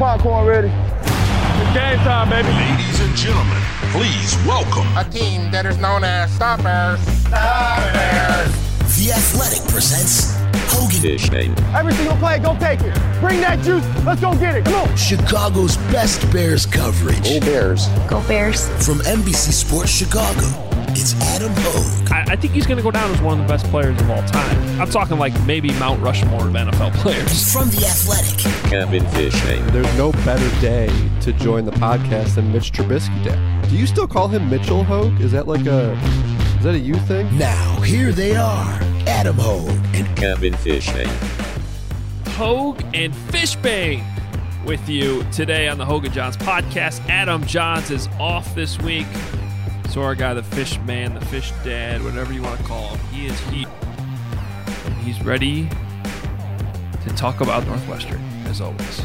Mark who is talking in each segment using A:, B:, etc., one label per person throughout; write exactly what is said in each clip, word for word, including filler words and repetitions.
A: popcorn ready. It's game time, baby.
B: Ladies and gentlemen, please welcome
C: a team that is known as the Bears. The Bears.
D: The Athletic presents Hogan
E: Fishbane.
A: Every single play, go take it. Bring that juice. Let's go get it. Come on.
D: Chicago's best Bears coverage.
E: Go Bears.
F: Go Bears.
D: From N B C Sports Chicago, it's Adam Hogue.
G: I, I think he's going to go down as one of the best players of all time. I'm talking like maybe Mount Rushmore of N F L players.
D: From The Athletic,
E: Kevin Fishbane.
H: There's no better day to join the podcast than Mitch Trubisky Day. Do you still call him Mitchell Hogue? Is that like a, is that a you thing?
D: Now, here they are, Adam Hogue and
E: Kevin Fishbane.
G: Hogue and Fishbane with you today on the Hogue and Johns podcast. Adam Johns is off this week. So our guy, the fish man, the fish dad, whatever you want to call him, he is here. And he's ready to talk about Northwestern, as always.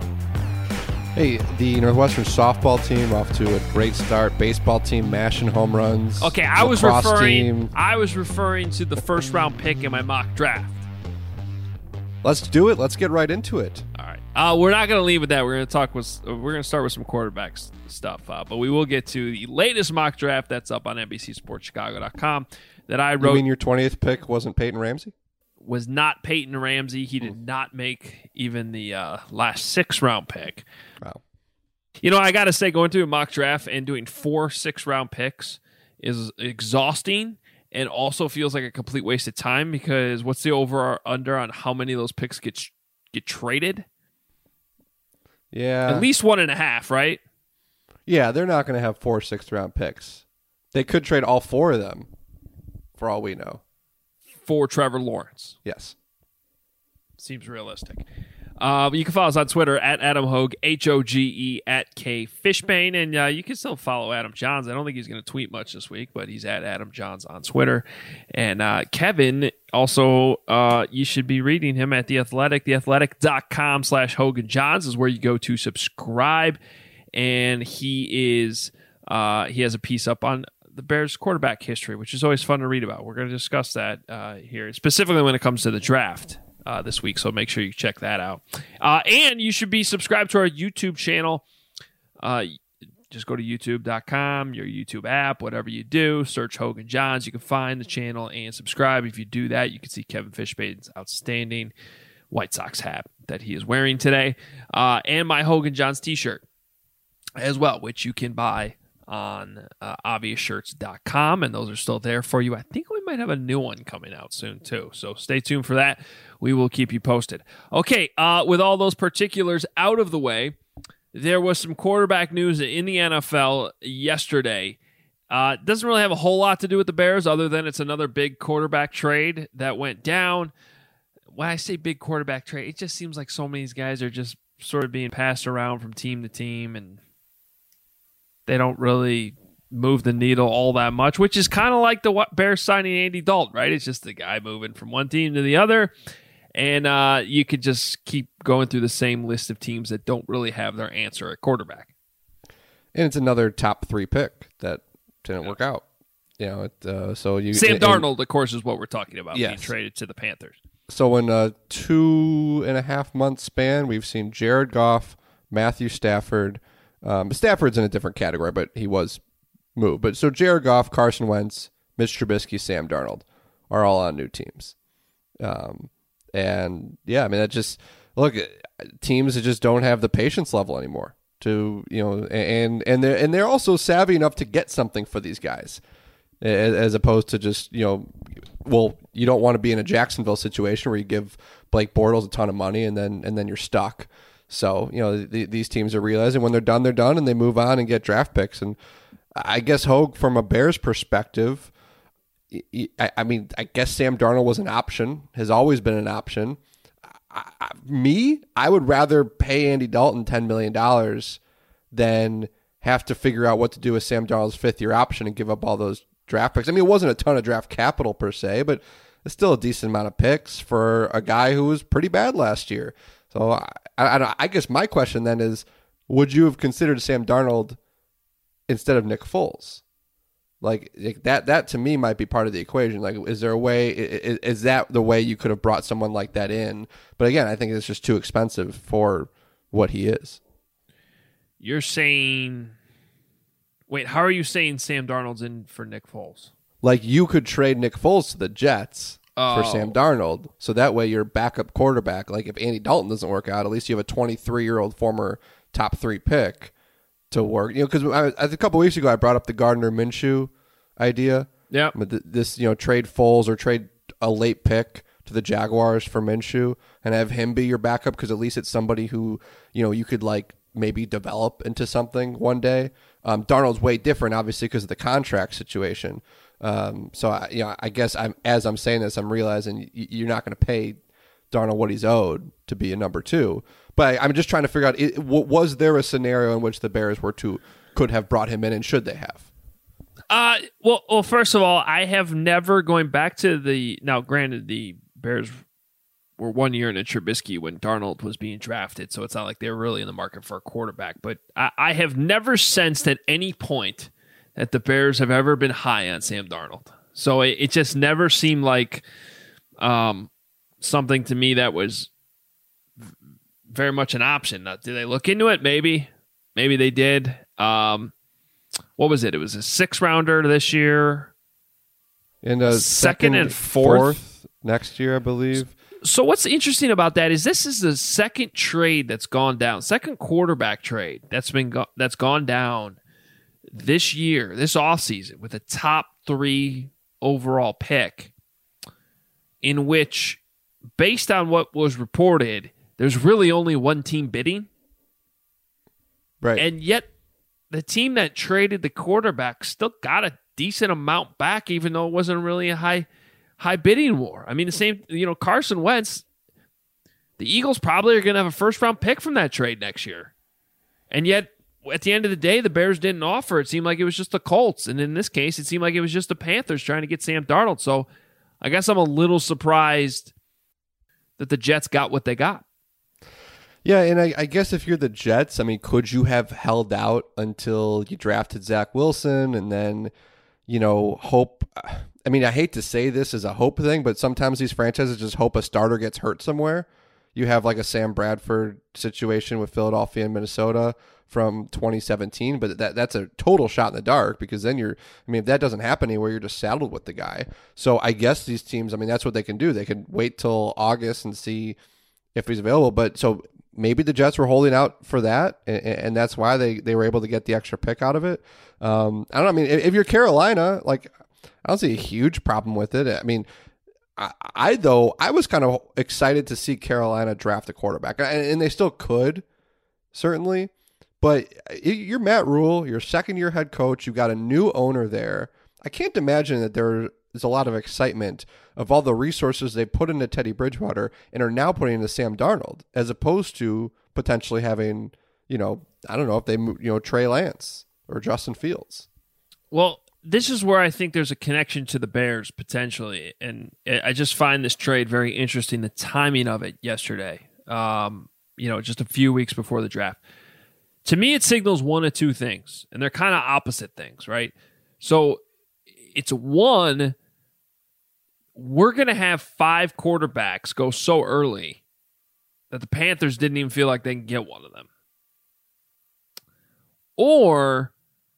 H: Hey, the Northwestern softball team off to a great start. Baseball team mashing home runs.
G: Okay, I was
H: Lacrosse
G: referring
H: team.
G: I was referring to the first round pick in my mock draft.
H: Let's do it. Let's get right into it.
G: All right. Uh, we're not going to leave with that. We're going to talk with. We're going to start with some quarterbacks stuff, uh, but we will get to the latest mock draft that's up on N B C Sports Chicago dot com that I wrote.
H: You mean your twentieth pick wasn't Peyton Ramsey?
G: Was not Peyton Ramsey. He did not make even the uh, last six round pick.
H: Wow.
G: You know, I got to say, going through a mock draft and doing four six round picks is exhausting and also feels like a complete waste of time because what's the over or under on how many of those picks get get traded?
H: Yeah.
G: At least one and a half, right?
H: Yeah, they're not going to have four sixth round picks. They could trade all four of them, for all we know.
G: For Trevor Lawrence.
H: Yes.
G: Seems realistic. Uh, you can follow us on Twitter at Adam Hogue, H O G E, at K Fishbane, and uh, you can still follow Adam Johns. I don't think he's going to tweet much this week, but he's at Adam Johns on Twitter. And uh, Kevin, also, uh, you should be reading him at The Athletic. theathletic.com slash Hogan Johns is where you go to subscribe. And he is uh, he has a piece up on the Bears quarterback history, which is always fun to read about. We're going to discuss that uh, here, specifically when it comes to the draft uh, this week. So make sure you check that out. Uh, and you should be subscribed to our YouTube channel. Uh, just go to youtube dot com, your YouTube app, whatever you do. Search Hogan Johns. You can find the channel and subscribe. If you do that, you can see Kevin Fishbane's outstanding White Sox hat that he is wearing today, uh, and my Hogan Johns t-shirt as well, which you can buy on uh, obvious shirts dot com, and those are still there for you. I think we might have a new one coming out soon, too, so stay tuned for that. We will keep you posted. Okay, uh, with all those particulars out of the way, there was some quarterback news in the N F L yesterday. Uh, doesn't really have a whole lot to do with the Bears, other than it's another big quarterback trade that went down. When I say big quarterback trade, it just seems like so many of these guys are just sort of being passed around from team to team, and they don't really move the needle all that much, which is kind of like the Bears signing Andy Dalton, right? It's just the guy moving from one team to the other, and uh, you could just keep going through the same list of teams that don't really have their answer at quarterback.
H: And it's another top three pick that didn't yeah. work out. You know, it, uh, so you
G: Sam
H: and,
G: Darnold, of course, is what we're talking about,
H: yes.
G: being traded to the Panthers.
H: So in a two and a half month span, we've seen Jared Goff, Matthew Stafford. Um, Stafford's in a different category, but he was moved. But so Jared Goff, Carson Wentz, Mitch Trubisky, Sam Darnold are all on new teams. Um, and yeah, I mean, that just look, teams that just don't have the patience level anymore to, you know, and and they're and they're also savvy enough to get something for these guys, as, as opposed to just, you know, well, you don't want to be in a Jacksonville situation where you give Blake Bortles a ton of money and then and then you're stuck. So, you know, the, these teams are realizing when they're done, they're done, and they move on and get draft picks. And I guess, Hogue, from a Bears perspective, I, I mean, I guess Sam Darnold was an option, has always been an option. I, I, me, I would rather pay Andy Dalton ten million dollars than have to figure out what to do with Sam Darnold's fifth-year option and give up all those draft picks. I mean, it wasn't a ton of draft capital per se, but it's still a decent amount of picks for a guy who was pretty bad last year. So I, I, I guess my question then is, would you have considered Sam Darnold instead of Nick Foles? Like, like that, that to me might be part of the equation. Like, is there a way? Is, is that the way you could have brought someone like that in? But again, I think it's just too expensive for what he is.
G: you're saying, wait, how are you saying Sam Darnold's in for Nick Foles?
H: Like you could trade Nick Foles to the Jets
G: oh.
H: for Sam Darnold, so that way your backup quarterback, like if Andy Dalton doesn't work out, at least you have a twenty-three-year-old former top three pick to work. You know, because a couple weeks ago I brought up the Gardner Minshew idea.
G: Yeah,
H: this you know trade Foles or trade a late pick to the Jaguars for Minshew and have him be your backup because at least it's somebody who you know you could like maybe develop into something one day. Um, Darnold's way different, obviously, because of the contract situation. Um, so I, you know, I guess I'm as I'm saying this, I'm realizing you're not going to pay Darnold what he's owed to be a number two. But I'm just trying to figure out: it, was there a scenario in which the Bears were to could have brought him in, and should they have?
G: Uh, well, well, first of all, I have never going back to the now. Granted, the Bears were one year in a Trubisky when Darnold was being drafted, so it's not like they were really in the market for a quarterback. But I, I have never sensed at any point that the Bears have ever been high on Sam Darnold. So it, it just never seemed like um, something to me that was very much an option. Now, did they look into it? Maybe. Maybe they did. Um, what was it? It was a six-rounder this year.
H: And a
G: second,
H: second
G: and fourth.
H: fourth next year, I believe.
G: So what's interesting about that is this is the second trade that's gone down, second quarterback trade that's been go- that's gone down this year, this offseason, with a top three overall pick, in which, based on what was reported, there's really only one team bidding.
H: Right.
G: And yet the team that traded the quarterback still got a decent amount back, even though it wasn't really a high high bidding war. I mean, the same, you know, Carson Wentz, the Eagles probably are going to have a first round pick from that trade next year. And yet, at the end of the day, the Bears didn't offer. It seemed like it was just the Colts. And in this case, it seemed like it was just the Panthers trying to get Sam Darnold. So I guess I'm a little surprised that the Jets got what they got.
H: Yeah, and I, I guess if you're the Jets, I mean, could you have held out until you drafted Zach Wilson and then, you know, hope... I mean, I hate to say this as a hope thing, but sometimes these franchises just hope a starter gets hurt somewhere. You have like a Sam Bradford situation with Philadelphia and Minnesota from twenty seventeen, but that that's a total shot in the dark because then you're, I mean, if that doesn't happen anywhere, you're just saddled with the guy. So I guess these teams, I mean, that's what they can do. They can wait till August and see if he's available. But so maybe the Jets were holding out for that, and, and that's why they, they were able to get the extra pick out of it. Um, I don't know. I mean, if, if you're Carolina, like, I don't see a huge problem with it. I mean, I, I though, I was kind of excited to see Carolina draft a quarterback, and, and they still could, certainly. But you're Matt Rule, you're second-year head coach. You've got a new owner there. I can't imagine that there is a lot of excitement of all the resources they put into Teddy Bridgewater and are now putting into Sam Darnold, as opposed to potentially having, you know, I don't know if they, you know, Trey Lance or Justin Fields.
G: Well, this is where I think there's a connection to the Bears potentially, and I just find this trade very interesting. The timing of it yesterday, um, you know, just a few weeks before the draft. To me, it signals one of two things, and they're kind of opposite things, right? So it's one, we're going to have five quarterbacks go so early that the Panthers didn't even feel like they can get one of them. Or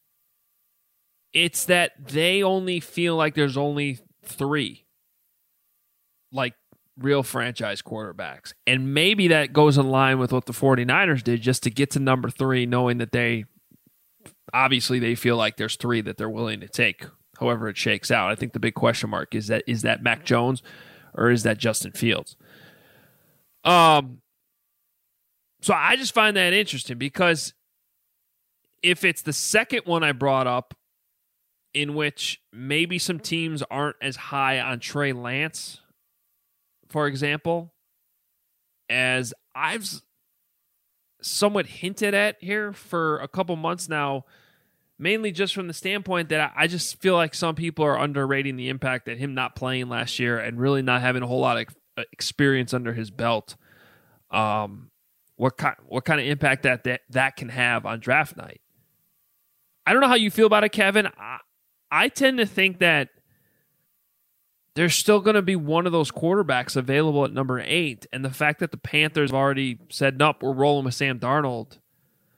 G: it's that they only feel like there's only three, like, real franchise quarterbacks. And maybe that goes in line with what the 49ers did just to get to number three, knowing that they, obviously they feel like there's three that they're willing to take, however it shakes out. I think the big question mark is that, is that Mac Jones or is that Justin Fields? Um, so I just find that interesting because if it's the second one I brought up, in which maybe some teams aren't as high on Trey Lance, for example, as I've somewhat hinted at here for a couple months now, mainly just from the standpoint that I just feel like some people are underrating the impact that him not playing last year and really not having a whole lot of experience under his belt, um, what kind, what kind of impact that, that that can have on draft night. I don't know how you feel about it, Kevin. I, I tend to think that there's still going to be one of those quarterbacks available at number eight, and the fact that the Panthers have already said, nope, we're rolling with Sam Darnold,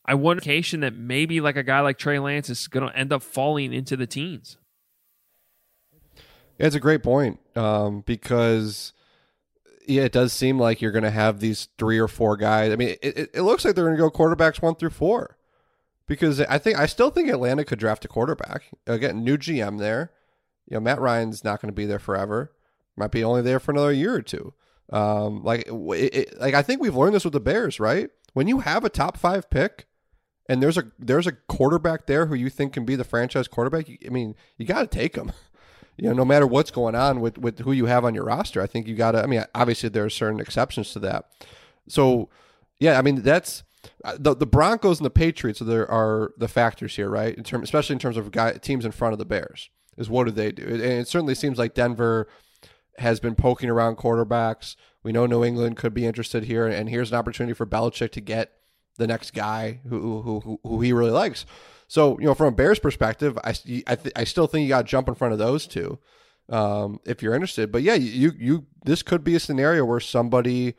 G: I wonder that maybe like a guy like Trey Lance is going to end up falling into the teens.
H: Yeah, it's a great point um, because yeah, it does seem like you're going to have these three or four guys. I mean, it, it, it looks like they're going to go quarterbacks one through four because I think I still think Atlanta could draft a quarterback. Again, new G M there. You know, Matt Ryan's not going to be there forever. Might be only there for another year or two. Um, like, it, it, like I think we've learned this with the Bears, right? When you have a top five pick. And there's a there's a quarterback there who you think can be the franchise quarterback. I mean, you got to take him. You know, no matter what's going on with, with who you have on your roster, I think you got to. I mean, obviously there are certain exceptions to that. So, yeah, I mean that's the the Broncos and the Patriots. There are the factors here, right? In term, especially in terms of guy, teams in front of the Bears, is what do they do? And it certainly seems like Denver has been poking around quarterbacks. We know New England could be interested here, and here's an opportunity for Belichick to get the next guy who who who, who he really likes. So, you know, from a Bears perspective, I, I, th- I still think you got to jump in front of those two um, if you're interested. But yeah, you you this could be a scenario where somebody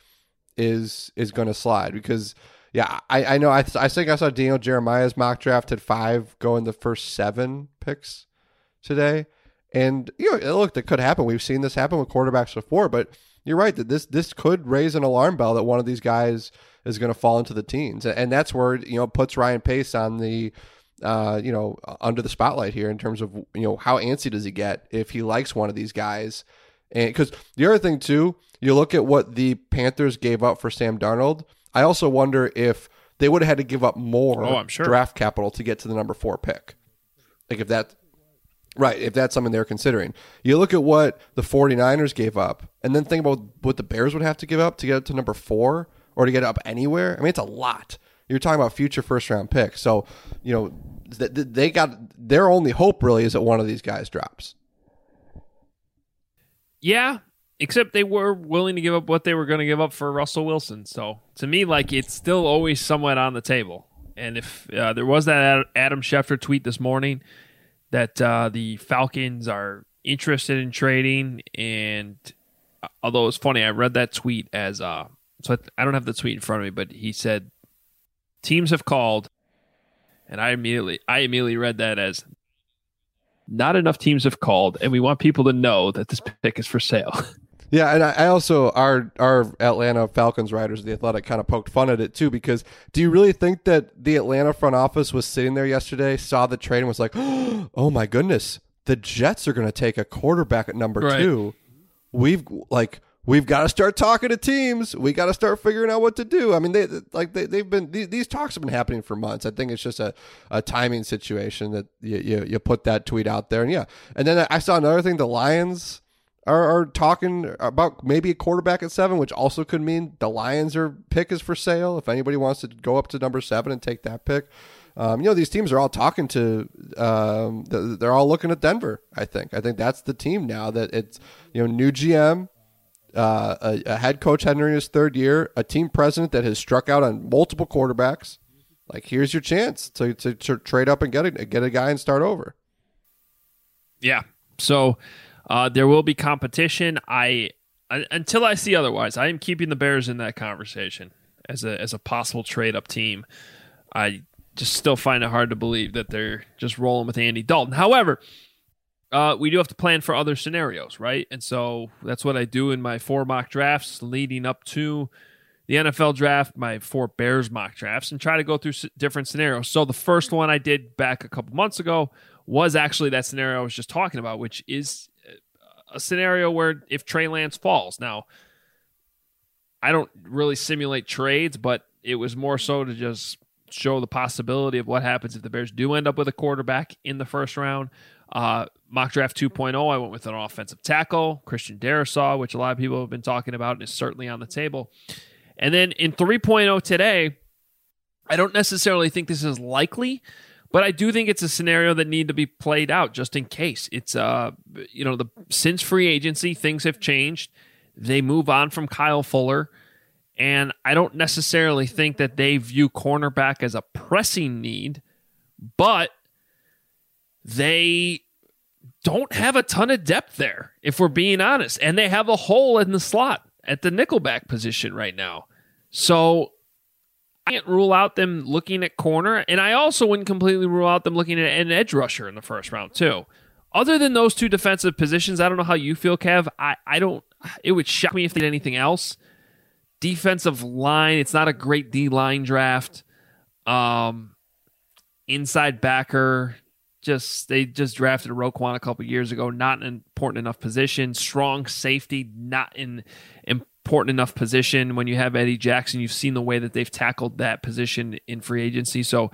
H: is is going to slide because yeah, I, I know I I think I saw Daniel Jeremiah's mock draft at five go in the first seven picks today, and you know, look, that could happen. We've seen this happen with quarterbacks before, but you're right that this this could raise an alarm bell that one of these guys is going to fall into the teens. And that's where, you know, it puts Ryan Pace on the, uh, you know, under the spotlight here in terms of, you know, how antsy does he get if he likes one of these guys? And because the other thing too, you look at what the Panthers gave up for Sam Darnold. I also wonder if they would have had to give up more
G: oh, I'm sure.
H: draft capital to get to the number four pick. Like if that, right, if that's something they're considering. You look at what the 49ers gave up and then think about what the Bears would have to give up to get to number four. Or to get up anywhere. I mean, it's a lot. You're talking about future first round picks. So, you know, they got their only hope really is that one of these guys drops.
G: Yeah, except they were willing to give up what they were going to give up for Russell Wilson. So to me, like it's still always somewhat on the table. And if uh, there was that Adam Schefter tweet this morning that uh, the Falcons are interested in trading, and uh, although it's funny, I read that tweet as uh, So I don't have the tweet in front of me, but he said teams have called, and I immediately I immediately read that as not enough teams have called, and we want people to know that this pick is for sale.
H: Yeah, and I also our our Atlanta Falcons writers, The Athletic, kind of poked fun at it too because do you really think that the Atlanta front office was sitting there yesterday, saw the trade, and was like, oh my goodness, the Jets are going to take a quarterback at number
G: right.
H: two. We've like. We've got to start talking to teams. We got to start figuring out what to do. I mean, they like they, they've been these, these talks have been happening for months. I think it's just a, a timing situation that you, you you put that tweet out there, and yeah. And then I saw another thing: the Lions are, are talking about maybe a quarterback at seven, which also could mean the Lions are pick is for sale. If anybody wants to go up to number seven and take that pick, um, you know, these teams are all talking to. Um, they're all looking at Denver. I think. I think that's the team now that it's you know new G M. Uh, a, a head coach entering his third year, a team president that has struck out on multiple quarterbacks. Like, here's your chance to, to, to trade up and get a, get a guy and start over.
G: Yeah. So uh, there will be competition. I, I until I see otherwise, I am keeping the Bears in that conversation as a as a possible trade up team. I just still find it hard to believe that they're just rolling with Andy Dalton. However, Uh, we do have to plan for other scenarios, right? And so that's what I do in my four mock drafts leading up to the N F L draft, my four Bears mock drafts, and try to go through s- different scenarios. So the first one I did back a couple months ago was actually that scenario I was just talking about, which is a scenario where if Trey Lance falls. Now, I don't really simulate trades, but it was more so to just show the possibility of what happens if the Bears do end up with a quarterback in the first round. Uh, mock draft two point oh, I went with an offensive tackle, Christian Darrisaw, which a lot of people have been talking about and is certainly on the table. And then in three point oh today, I don't necessarily think this is likely, but I do think it's a scenario that need to be played out just in case. It's, uh, you know, the since free agency, things have changed. They move on from Kyle Fuller, and I don't necessarily think that they view cornerback as a pressing need, but they don't have a ton of depth there, if we're being honest. And they have a hole in the slot at the nickelback position right now. So I can't rule out them looking at corner, and I also wouldn't completely rule out them looking at an edge rusher in the first round too. Other than those two defensive positions, I don't know how you feel, Kev. I, I don't. It would shock me if they did anything else. Defensive line, it's not a great D-line draft. Um, inside backer, just they just drafted Roquan a couple years ago. Not an important enough position. Strong safety, not in important enough position. When you have Eddie Jackson, you've seen the way that they've tackled that position in free agency. So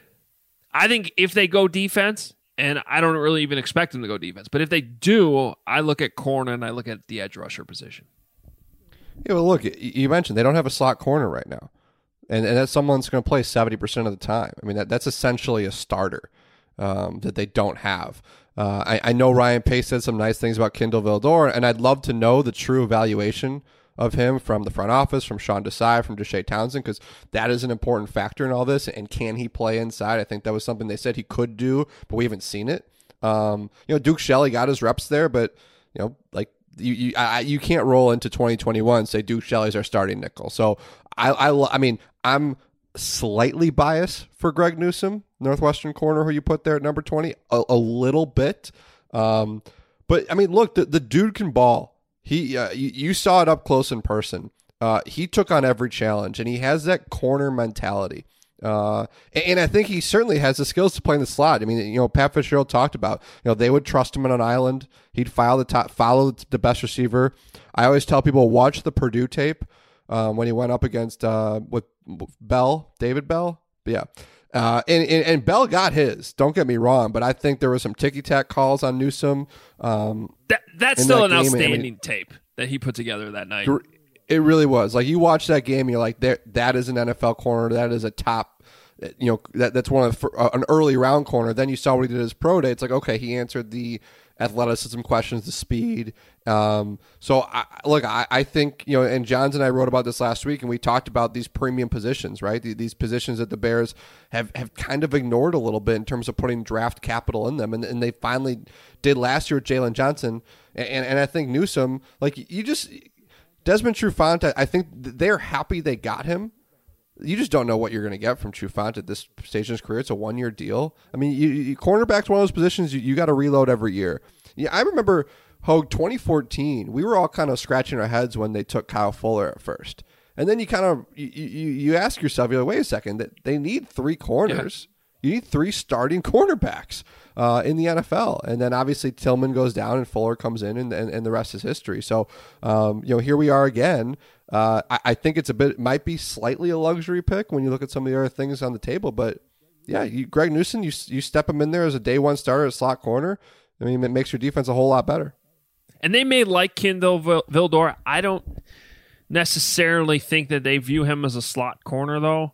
G: I think if they go defense, and I don't really even expect them to go defense, but if they do, I look at corner and I look at the edge rusher position.
H: Yeah, well, look, you mentioned they don't have a slot corner right now, and, and that's someone's going to play seventy percent of the time. I mean, that, that's essentially a starter um, that they don't have. Uh, I, I know Ryan Pace said some nice things about Kindle Vildor, and I'd love to know the true evaluation of him from the front office, from Sean Desai, from Deshae Townsend, because that is an important factor in all this. And can he play inside? I think that was something they said he could do, but we haven't seen it. Um, you know, Duke Shelley got his reps there, but you know, like you, you, I, you can't roll into twenty twenty-one and say Duke Shelley's our starting nickel. So I, I, I mean, I'm slightly biased for Greg Newsome, Northwestern corner, who you put there at number twenty, a, a little bit. Um, but I mean, look, the, the dude can ball. He, uh, you, you saw it up close in person. Uh, he took on every challenge, and he has that corner mentality. Uh, and, and I think he certainly has the skills to play in the slot. I mean, you know, Pat Fitzgerald talked about, you know, they would trust him on an island. He'd file the top, follow the best receiver. I always tell people, watch the Purdue tape um, when he went up against uh, with Bell, David Bell. Yeah. Uh, and, and, and Bell got his, don't get me wrong, but I think there were some ticky-tack calls on Newsome. Um,
G: that, that's still
H: that
G: an
H: game.
G: outstanding
H: I mean,
G: tape that he put together that night.
H: It really was. Like, you watch that game, you're like, there, that is an N F L corner. That is a top, you know, that that's one of the, uh, an early round corner. Then you saw what he did at his pro day. It's like, okay, he answered the athleticism questions, the speed. Um, so, I, look, I, I think, you know, and Johns and I wrote about this last week, and we talked about these premium positions, right? These positions that the Bears have, have kind of ignored a little bit in terms of putting draft capital in them. And, and they finally did last year with Jalen Johnson. And, and, and I think Newsome, like, you just, Desmond Trufant, I think they're happy they got him. You just don't know what you're going to get from Trufant at this stage in his career. It's a one-year deal. I mean, you, you, cornerback's one of those positions you, you got to reload every year. Yeah, I remember, Hogue, twenty fourteen, we were all kind of scratching our heads when they took Kyle Fuller at first. And then you kind of, you, you, you ask yourself, you're like, wait a second, that they need three corners. Yeah. You need three starting cornerbacks uh, in the N F L. And then obviously Tillman goes down and Fuller comes in, and, and, and the rest is history. So, um, you know, here we are again. Uh, I, I think it's a bit, might be slightly a luxury pick when you look at some of the other things on the table. But yeah, you, Greg Newsome, you you step him in there as a day one starter at slot corner. I mean, it makes your defense a whole lot better.
G: And they may like Kindle Vildor. I don't necessarily think that they view him as a slot corner, though.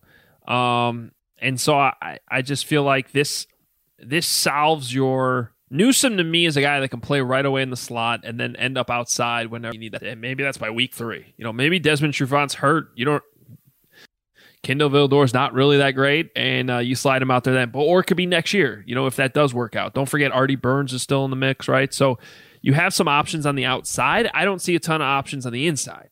G: Um, and so I, I just feel like this this solves your... Newsome, to me, is a guy that can play right away in the slot and then end up outside whenever you need that. And maybe that's by week three. You know, maybe Desmond Trufant's hurt. You don't... Kindle Vildor's not really that great, and uh, you slide him out there then. But, or it could be next year, you know, if that does work out. Don't forget Artie Burns is still in the mix, right? So you have some options on the outside. I don't see a ton of options on the inside.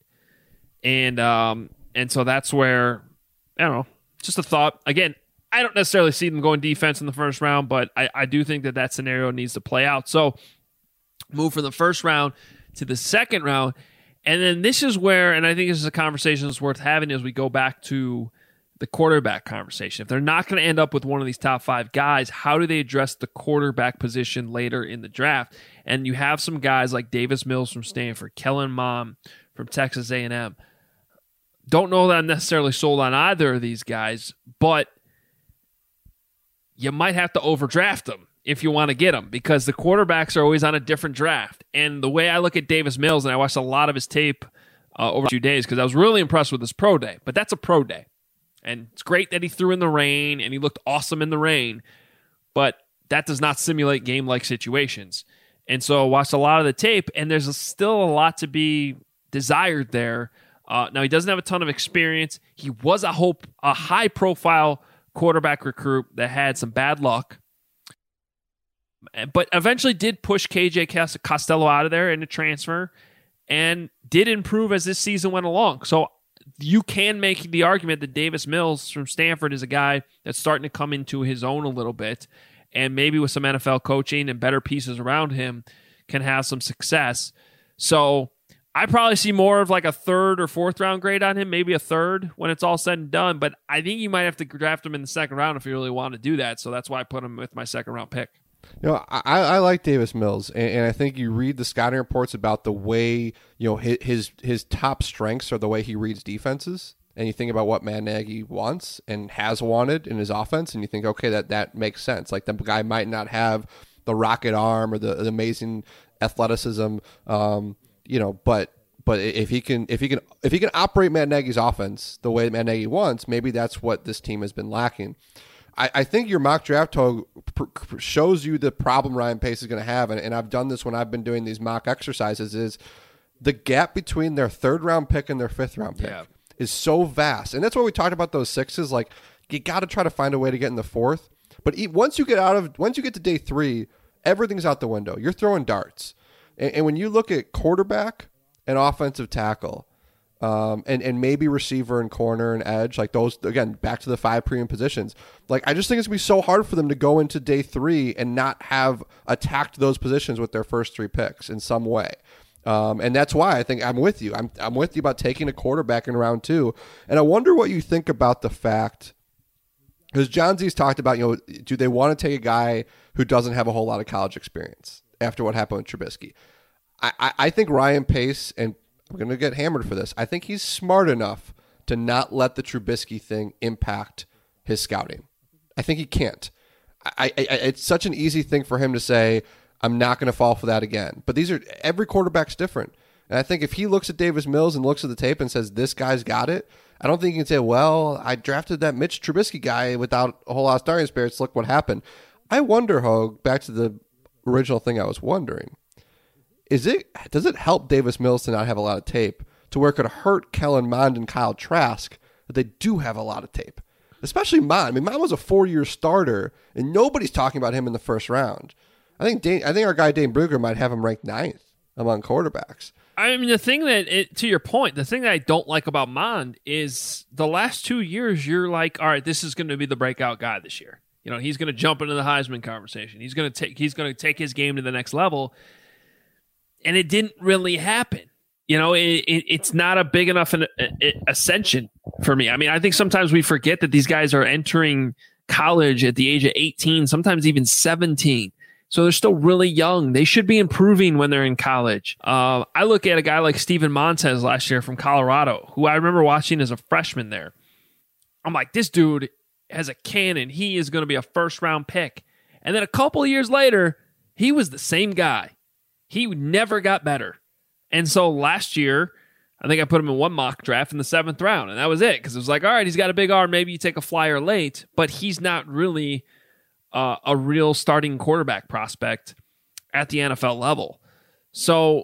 G: And um, and so that's where, I don't know, just a thought. Again, I don't necessarily see them going defense in the first round, but I, I do think that that scenario needs to play out. So move from the first round to the second round. And then this is where, and I think this is a conversation that's worth having as we go back to the quarterback conversation. If they're not going to end up with one of these top five guys, how do they address the quarterback position later in the draft? And you have some guys like Davis Mills from Stanford, Kellen Mond from Texas A and M. Don't know that I'm necessarily sold on either of these guys, but you might have to overdraft them if you want to get them, because the quarterbacks are always on a different draft. And the way I look at Davis Mills, and I watched a lot of his tape uh, over a few days because I was really impressed with his pro day, but that's a pro day. And it's great that he threw in the rain and he looked awesome in the rain, but that does not simulate game-like situations. And so I watched a lot of the tape, and there's a, still a lot to be desired there. Uh, now, he doesn't have a ton of experience. He was a, hope, a high-profile quarterback recruit that had some bad luck, but eventually did push K J Costello out of there in a transfer and did improve as this season went along. So you can make the argument that Davis Mills from Stanford is a guy that's starting to come into his own a little bit, and maybe with some N F L coaching and better pieces around him can have some success. So I probably see more of like a third or fourth round grade on him, maybe a third when it's all said and done. But I think you might have to draft him in the second round if you really want to do that. So that's why I put him with my second round pick.
H: You know, I, I like Davis Mills, and, and I think you read the scouting reports about the way, you know, his, his his top strengths are the way he reads defenses, and you think about what Matt Nagy wants and has wanted in his offense, and you think, okay, that, that makes sense. Like, the guy might not have the rocket arm or the, the amazing athleticism, um, you know, but but if he can if he can if he can operate Matt Nagy's offense the way Matt Nagy wants, maybe that's what this team has been lacking. I, I think your mock draft Hogue shows you the problem Ryan Pace is going to have, and, and I've done this when I've been doing these mock exercises, is the gap between their third round pick and their fifth round pick yeah. is so vast. And that's why we talked about those sixes. Like, you got to try to find a way to get in the fourth. But once you get out of once you get to day three, everything's out the window. You're throwing darts. And, and when you look at quarterback and offensive tackle, Um, and, and maybe receiver and corner and edge, like those, again, back to the five premium positions. Like, I just think it's going to be so hard for them to go into day three and not have attacked those positions with their first three picks in some way. Um, and that's why I think I'm with you. I'm, I'm with you about taking a quarterback in round two. And I wonder what you think about the fact, because John Z's talked about, you know, do they want to take a guy who doesn't have a whole lot of college experience after what happened with Trubisky? I, I, I think Ryan Pace, and we're going to get hammered for this, I think he's smart enough to not let the Trubisky thing impact his scouting. I think he can't. I, I, it's such an easy thing for him to say, I'm not going to fall for that again. But these are every quarterback's different. And I think if he looks at Davis Mills and looks at the tape and says, this guy's got it, I don't think he can say, well, I drafted that Mitch Trubisky guy without a whole lot of starting experience. Look what happened. I wonder, Hogue, back to the original thing I was wondering, Is it does it help Davis Mills to not have a lot of tape to where it could hurt Kellen Mond and Kyle Trask that they do have a lot of tape? Especially Mond. I mean, Mond was a four-year starter, and nobody's talking about him in the first round. I think Dane, I think our guy Dane Brugger might have him ranked ninth among quarterbacks.
G: I mean, the thing that, it, to your point, the thing that I don't like about Mond is the last two years, you're like, all right, this is going to be the breakout guy this year. You know, he's going to jump into the Heisman conversation. He's going to take he's going to take his game to the next level. And it didn't really happen. You know, it, it, it's not a big enough an, a, ascension for me. I mean, I think sometimes we forget that these guys are entering college at the age of eighteen, sometimes even seventeen. So they're still really young. They should be improving when they're in college. Uh, I look at a guy like Steven Montez last year from Colorado, who I remember watching as a freshman there. I'm like, this dude has a cannon. He is going to be a first-round pick. And then a couple of years later, he was the same guy. He never got better. And so last year, I think I put him in one mock draft in the seventh round, and that was it. Because it was like, all right, he's got a big arm. Maybe you take a flyer late, but he's not really uh, a real starting quarterback prospect at the N F L level. So,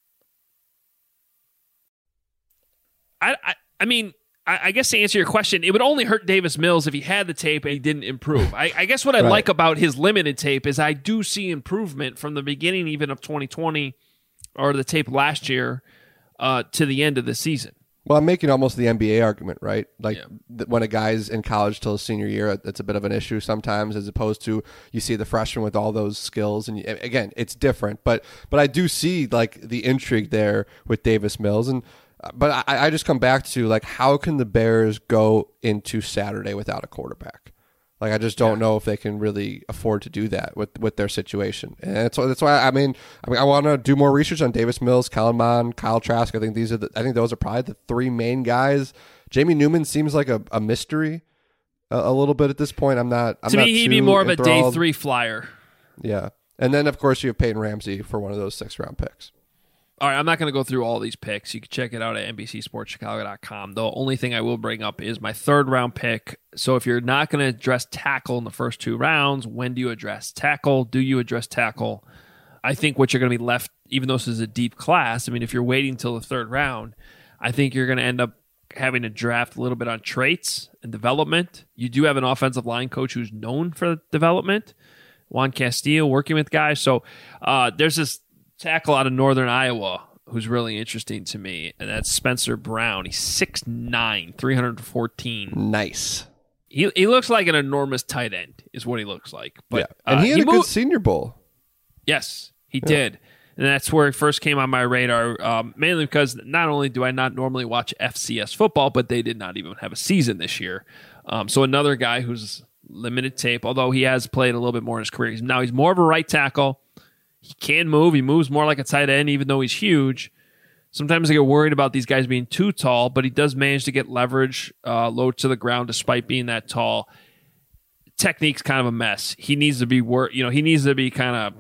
G: I, I, I mean, I, I guess to answer your question, it would only hurt Davis Mills if he had the tape and he didn't improve. I, I guess what I right. like about his limited tape is I do see improvement from the beginning even of twenty twenty or the tape last year uh, to the end of the season.
H: Well, I'm making almost the N B A argument, right? Like yeah. th- when a guy's in college till his senior year, it's a bit of an issue sometimes, as opposed to you see the freshman with all those skills. And you, again, it's different, but but I do see like the intrigue there with Davis Mills. And but I, I just come back to like, how can the Bears go into Saturday without a quarterback? Like, I just don't yeah. know if they can really afford to do that with, with their situation. And that's, that's why, I mean, I mean, I want to do more research on Davis Mills, Kellen Mond, Kyle Trask. I think these are the, I think those are probably the three main guys. Jamie Newman seems like a, a mystery a, a little bit at this point. I'm not, I'm
G: to
H: not
G: me, he'd be more of a day three flyer.
H: Yeah. And then, of course, you have Peyton Ramsey for one of those six round picks.
G: All right, I'm not going to go through all these picks. You can check it out at N B C Sports Chicago dot com. The only thing I will bring up is my third round pick. So if you're not going to address tackle in the first two rounds, when do you address tackle? Do you address tackle? I think what you're going to be left, even though this is a deep class, I mean, if you're waiting until the third round, I think you're going to end up having to draft a little bit on traits and development. You do have an offensive line coach who's known for development, Juan Castillo, working with guys. So uh, there's this tackle out of Northern Iowa who's really interesting to me, and that's Spencer Brown. He's six nine, three hundred fourteen.
H: Nice.
G: He he looks like an enormous tight end, is what he looks like. But
H: yeah. And
G: uh,
H: he had
G: he
H: a
G: moved,
H: good Senior Bowl.
G: Yes, he
H: Yeah.
G: did. And that's where it first came on my radar, um, mainly because not only do I not normally watch F C S football, but they did not even have a season this year. Um, so another guy who's limited tape, although he has played a little bit more in his career. He's, now he's more of a right tackle. He can move. He moves more like a tight end, even though he's huge. Sometimes I get worried about these guys being too tall, but he does manage to get leverage uh, low to the ground despite being that tall. Technique's kind of a mess. He needs to be wor- you know, he needs to be kind of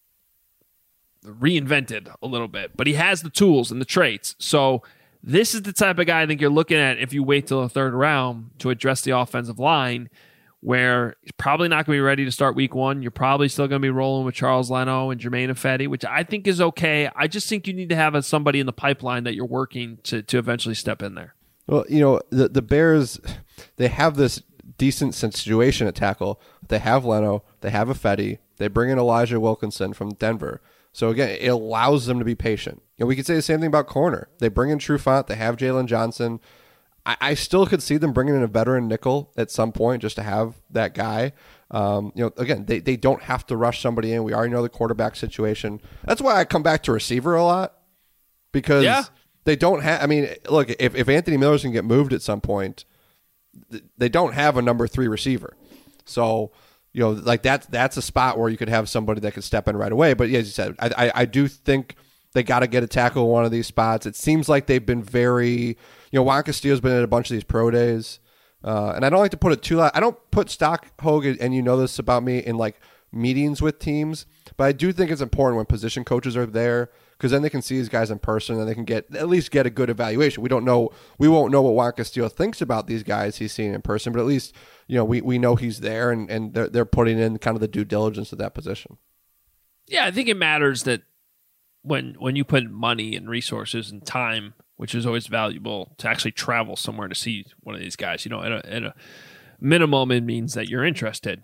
G: reinvented a little bit, but he has the tools and the traits. So this is the type of guy I think you're looking at if you wait till the third round to address the offensive line, where he's probably not going to be ready to start week one. You're probably still going to be rolling with Charles Leno and Jermaine Ifedi, which I think is okay. I just think you need to have a, somebody in the pipeline that you're working to to eventually step in there.
H: Well, you know, the the Bears, they have this decent situation at tackle. They have Leno, they have Ifedi, they bring in Elijah Wilkinson from Denver. So again, it allows them to be patient. You know, we could say the same thing about corner. They bring in Trufant, they have Jalen Johnson. I, I still could see them bringing in a veteran nickel at some point just to have that guy. Um, you know, again, they, they don't have to rush somebody in. We already know the quarterback situation. That's why I come back to receiver a lot, because
G: Yeah.
H: they don't have. I mean, look, if if Anthony Miller's going to get moved at some point, th- they don't have a number three receiver. So, you know, like that's that's a spot where you could have somebody that could step in right away. But yeah, as you said, I I, I do think they got to get a tackle in one of these spots. It seems like they've been very, you know, Juan Castillo's been at a bunch of these pro days, uh, and I don't like to put it too loud. I don't put stock, Hogue, and you know this about me, in like meetings with teams, but I do think it's important when position coaches are there, because then they can see these guys in person and they can get at least get a good evaluation. We don't know, we won't know what Juan Castillo thinks about these guys he's seen in person, but at least, you know, we, we know he's there, and, and they're, they're putting in kind of the due diligence of that position.
G: Yeah, I think it matters that when when you put money and resources and time, which is always valuable, to actually travel somewhere to see one of these guys, you know, at a, at a minimum, it means that you're interested.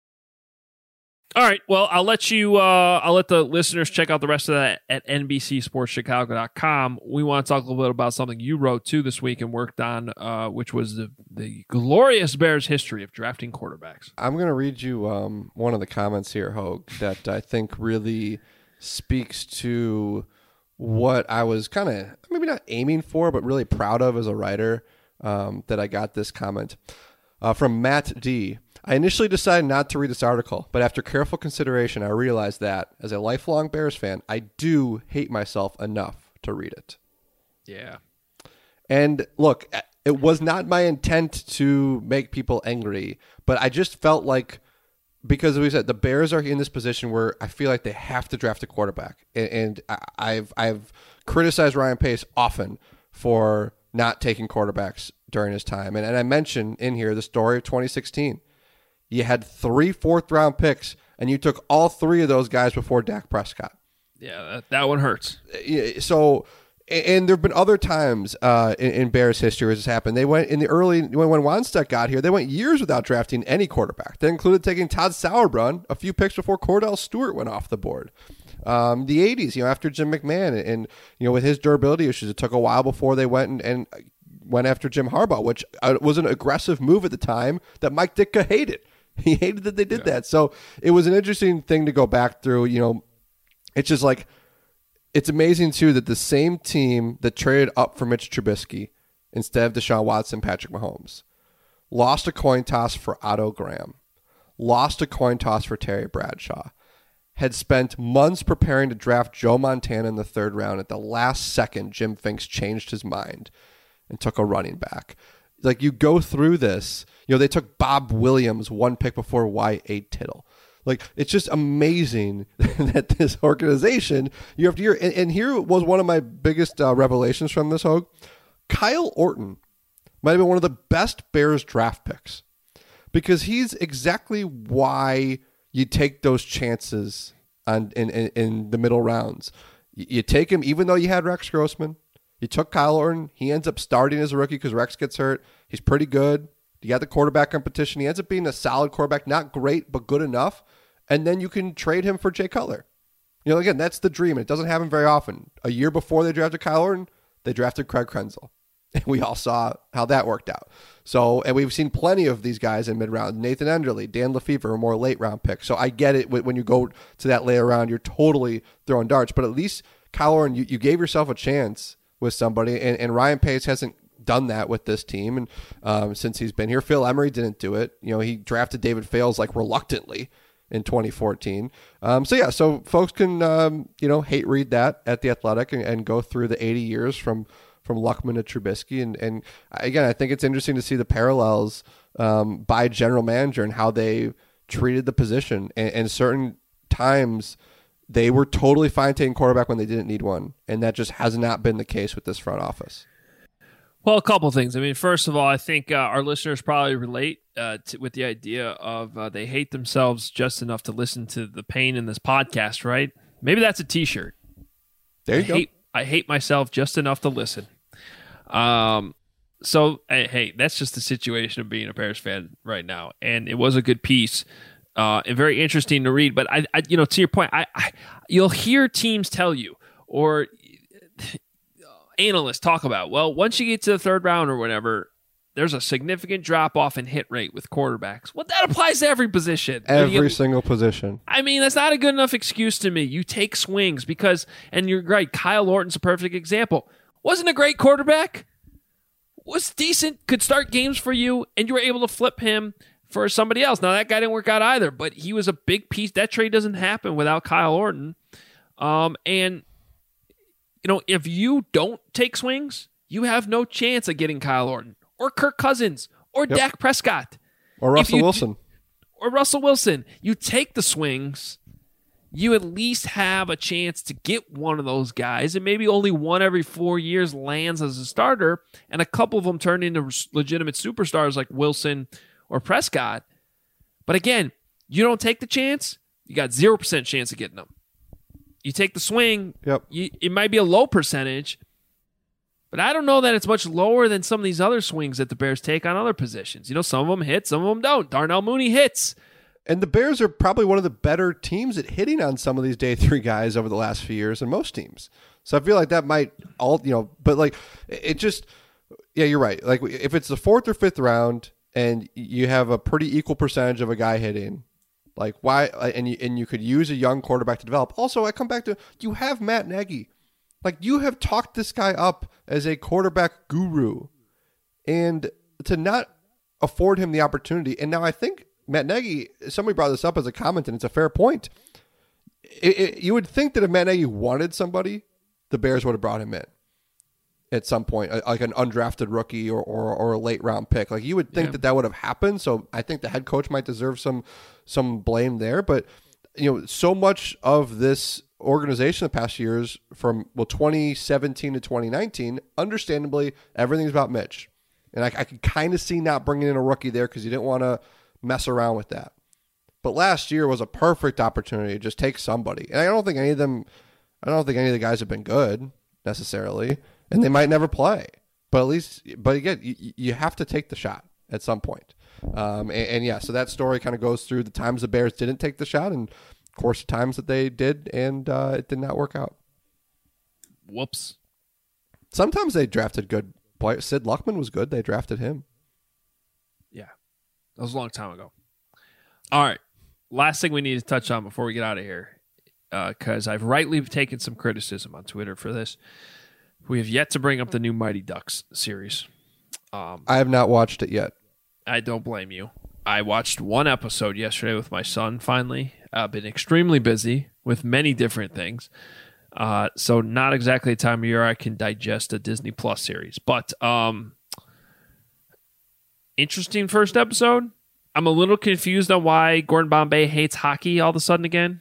G: All right, well, I'll let you. Uh, I'll let the listeners check out the rest of that at N B C Sports Chicago dot com. We want to talk a little bit about something you wrote too this week and worked on, uh, which was the the glorious Bears history of drafting quarterbacks.
H: I'm going to read you um, one of the comments here, Hogue, that I think really speaks to what I was kind of maybe not aiming for, but really proud of as a writer. Um, that I got this comment uh, from Matt D. I initially decided not to read this article, but after careful consideration, I realized that, as a lifelong Bears fan, I do hate myself enough to read it.
G: Yeah.
H: And look, it was not my intent to make people angry, but I just felt like, because as we said, the Bears are in this position where I feel like they have to draft a quarterback. And I've I've criticized Ryan Pace often for not taking quarterbacks during his time. And, and I mentioned in here the story of twenty sixteen. You had three fourth-round picks, and you took all three of those guys before Dak Prescott.
G: Yeah, that, that one hurts.
H: So, and there have been other times uh, in, in Bears history where this happened. They went in the early, when, when Wannstedt got here, they went years without drafting any quarterback. That included taking Todd Sauerbrunn a few picks before Cordell Stewart went off the board. Um, the eighties, you know, after Jim McMahon, and, you know, with his durability issues, it took a while before they went and, and went after Jim Harbaugh, which uh, was an aggressive move at the time that Mike Ditka hated. He hated that they did yeah. that. So it was an interesting thing to go back through. You know, it's just like, it's amazing too that the same team that traded up for Mitch Trubisky instead of Deshaun Watson, Patrick Mahomes, lost a coin toss for Otto Graham, lost a coin toss for Terry Bradshaw, had spent months preparing to draft Joe Montana in the third round. At the last second, Jim Finks changed his mind and took a running back. Like, you go through this, you know, they took Bob Williams one pick before Y A Tittle. Like, it's just amazing that this organization, year after year, and, and here was one of my biggest uh, revelations from this, Hogue. Kyle Orton might have been one of the best Bears draft picks, because he's exactly why you take those chances on in, in, in the middle rounds. You, you take him, even though you had Rex Grossman. You took Kyle Orton. He ends up starting as a rookie because Rex gets hurt. He's pretty good. You got the quarterback competition. He ends up being a solid quarterback. Not great, but good enough. And then you can trade him for Jay Cutler. You know, again, that's the dream. It doesn't happen very often. A year before they drafted Kyle Orton, they drafted Craig Krenzel. And we all saw how that worked out. So, and we've seen plenty of these guys in mid-round. Nathan Enderle, Dan Lefevre are more late-round picks. So I get it. When you go to that later round, you're totally throwing darts. But at least Kyle Orton, you, you gave yourself a chance with somebody. And, and Ryan Pace hasn't done that with this team and um, since he's been here. Phil Emery didn't do it. You know, he drafted David Fales like reluctantly in twenty fourteen. Um, so, yeah, so folks can, um, you know, hate read that at The Athletic and, and go through the eighty years from from Luckman to Trubisky. And, and again, I think it's interesting to see the parallels um, by general manager and how they treated the position. And, and certain times they were totally fine taking quarterback when they didn't need one. And that just has not been the case with this front office.
G: Well, a couple things. I mean, first of all, I think uh, our listeners probably relate uh, to, with the idea of uh, they hate themselves just enough to listen to the pain in this podcast, right? Maybe that's a T-shirt.
H: There you
G: I
H: go.
G: Hate, I hate myself just enough to listen. Um, so, hey, that's just the situation of being a Bears fan right now. And it was a good piece uh, and very interesting to read. But, I, I you know, to your point, I, I you'll hear teams tell you or analysts talk about, well, once you get to the third round or whatever, there's a significant drop-off in hit rate with quarterbacks. Well, that applies to every position.
H: Every
G: get,
H: single position.
G: I mean, that's not a good enough excuse to me. You take swings because, and you're right, Kyle Orton's a perfect example. Wasn't a great quarterback, was decent, could start games for you, and you were able to flip him for somebody else. Now, that guy didn't work out either, but he was a big piece. That trade doesn't happen without Kyle Orton. Um, and, you know, if you don't take swings, you have no chance of getting Kyle Orton or Kirk Cousins or
H: Yep.
G: Dak Prescott.
H: Or Russell
G: you,
H: Wilson.
G: Or Russell Wilson. You take the swings, you at least have a chance to get one of those guys, and maybe only one every four years lands as a starter, and a couple of them turn into legitimate superstars like Wilson or Prescott. But again, you don't take the chance, you got zero percent chance of getting them. You take the swing,
H: Yep.
G: you, it might be a low percentage, but I don't know that it's much lower than some of these other swings that the Bears take on other positions. You know, some of them hit, some of them don't. Darnell Mooney hits.
H: And the Bears are probably one of the better teams at hitting on some of these day three guys over the last few years than most teams. So I feel like that might all, you know, but like it just, yeah, you're right. Like if it's the fourth or fifth round and you have a pretty equal percentage of a guy hitting, like why, and you, and you could use a young quarterback to develop. Also, I come back to, you have Matt Nagy. Like you have talked this guy up as a quarterback guru and to not afford him the opportunity. And now I think, Matt Nagy, somebody brought this up as a comment, and it's a fair point. It, it, you would think that if Matt Nagy wanted somebody, the Bears would have brought him in at some point, like an undrafted rookie or or, or a late round pick. Like you would think
G: Yeah.
H: that that would have happened. So I think the head coach might deserve some some blame there. But you know, so much of this organization the past years, from well twenty seventeen to twenty nineteen, understandably, everything's about Mitch, and I, I could kind of see not bringing in a rookie there because you didn't want to mess around with that. But last year was a perfect opportunity to just take somebody. And I don't think any of them, I don't think any of the guys have been good necessarily, and they might never play. But at least, but again, you, you have to take the shot at some point. Um, and, and yeah, so that story kind of goes through the times the Bears didn't take the shot and, of course, the times that they did and uh, it did not work out.
G: Whoops.
H: Sometimes they drafted good players. Sid Luckman was good. They drafted him.
G: Yeah. That was a long time ago. All right. Last thing we need to touch on before we get out of here, because uh, I've rightly taken some criticism on Twitter for this. We have yet to bring up the new Mighty Ducks series. Um,
H: I have not watched it yet.
G: I don't blame you. I watched one episode yesterday with my son, finally. I've been extremely busy with many different things. Uh, so not exactly the time of year I can digest a Disney Plus series. But um, interesting first episode. I'm a little confused on why Gordon Bombay hates hockey all of a sudden again.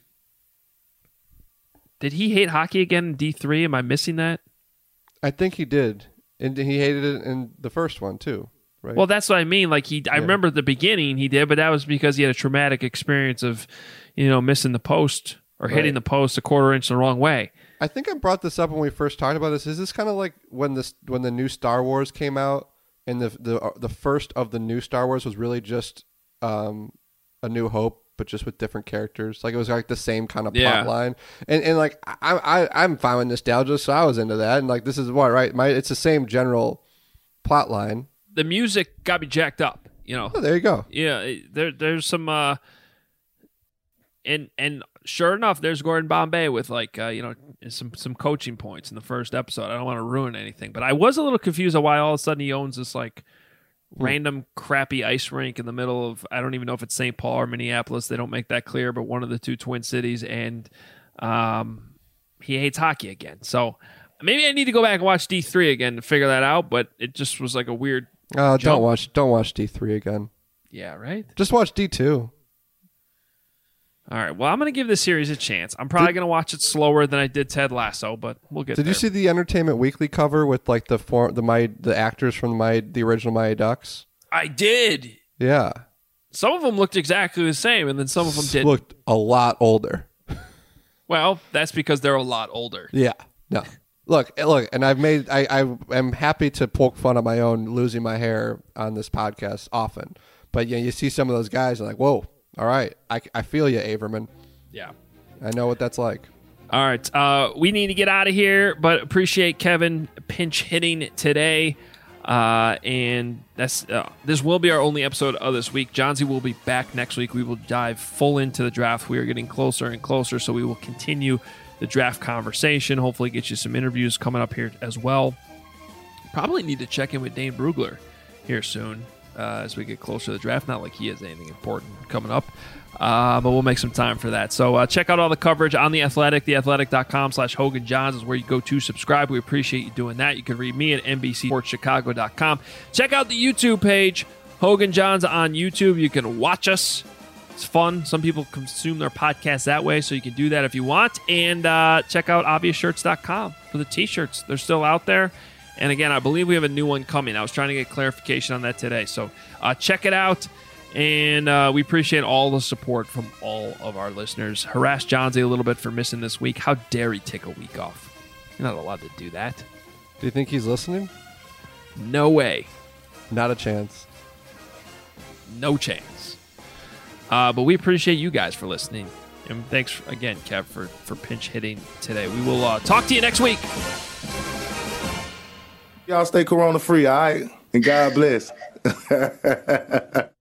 G: Did he hate hockey again in D three? Am I missing that?
H: I think he did. And he hated it in the first one, too. Right?
G: Well, that's what I mean. Like he, I
H: Yeah.
G: remember at the beginning he did, but that was because he had a traumatic experience of, you know, missing the post or
H: Right.
G: hitting the post a quarter inch the wrong way.
H: I think I brought this up when we first talked about this. Is this kind of like when this when the new Star Wars came out, and the the uh, the first of the new Star Wars was really just um, A New Hope but just with different characters. Like it was like the same kind of
G: Yeah.
H: plot line. And and like I I I'm fine with nostalgia, so I was into that. And like this is what right, my it's the same general plot line.
G: The music got me jacked up. You know.
H: Oh, there you go.
G: Yeah, there there's some uh and and sure enough there's Gordon Bombay with like uh, you know some some coaching points in the first episode. I don't want to ruin anything, but I was a little confused on why all of a sudden he owns this like random crappy ice rink in the middle of I don't even know if it's Saint Paul or Minneapolis. They don't make that clear, but one of the two twin cities, and um he hates hockey again. So maybe I need to go back and watch D three again to figure that out, but it just was like a weird
H: Uh,
G: jump.
H: don't watch don't watch D three again.
G: Yeah, right?
H: Just watch D two.
G: All right. Well, I'm going to give this series a chance. I'm probably
H: Did-
G: going to watch it slower than I did Ted Lasso, but we'll get
H: Did
G: there.
H: you see the Entertainment Weekly cover with like the form the my the actors from my the original Mighty Ducks?
G: I did.
H: Yeah.
G: Some of them looked exactly the same, and then some of them didn't.
H: Looked a lot older.
G: Well, that's because they're a lot older.
H: Yeah. No. Look, look, and I've made I, I am happy to poke fun at my own losing my hair on this podcast often. But you know, you see some of those guys and like, whoa, all right. I, I feel you, Averman.
G: Yeah.
H: I know what that's like.
G: All right. Uh, we need to get out of here, but appreciate Kevin pinch hitting today. Uh, and that's uh, this will be our only episode of this week. Johnsy will be back next week. We will dive full into the draft. We are getting closer and closer, so we will continue the draft conversation. Hopefully get you some interviews coming up here as well. Probably need to check in with Dane Brugler here soon uh, as we get closer to the draft. Not like he has anything important coming up, uh, but we'll make some time for that. So uh, check out all the coverage on The Athletic. theathletic.com slash Hogan Johns is where you go to subscribe. We appreciate you doing that. You can read me at N B C Sports Chicago dot com. Check out the YouTube page, Hogan Johns on YouTube. You can watch us. It's fun. Some people consume their podcasts that way, so you can do that if you want. And uh, check out obvious shirts dot com for the T-shirts. They're still out there. And again, I believe we have a new one coming. I was trying to get clarification on that today. So uh, check it out. And uh, we appreciate all the support from all of our listeners. Harass Johnsy a little bit for missing this week. How dare he take a week off? You're not allowed to do that.
H: Do you think he's listening?
G: No way.
H: Not a chance.
G: No chance. Uh, but we appreciate you guys for listening. And thanks again, Kev, for, for pinch hitting today. We will uh, talk to you next week.
F: Y'all stay corona free, all right? And God bless.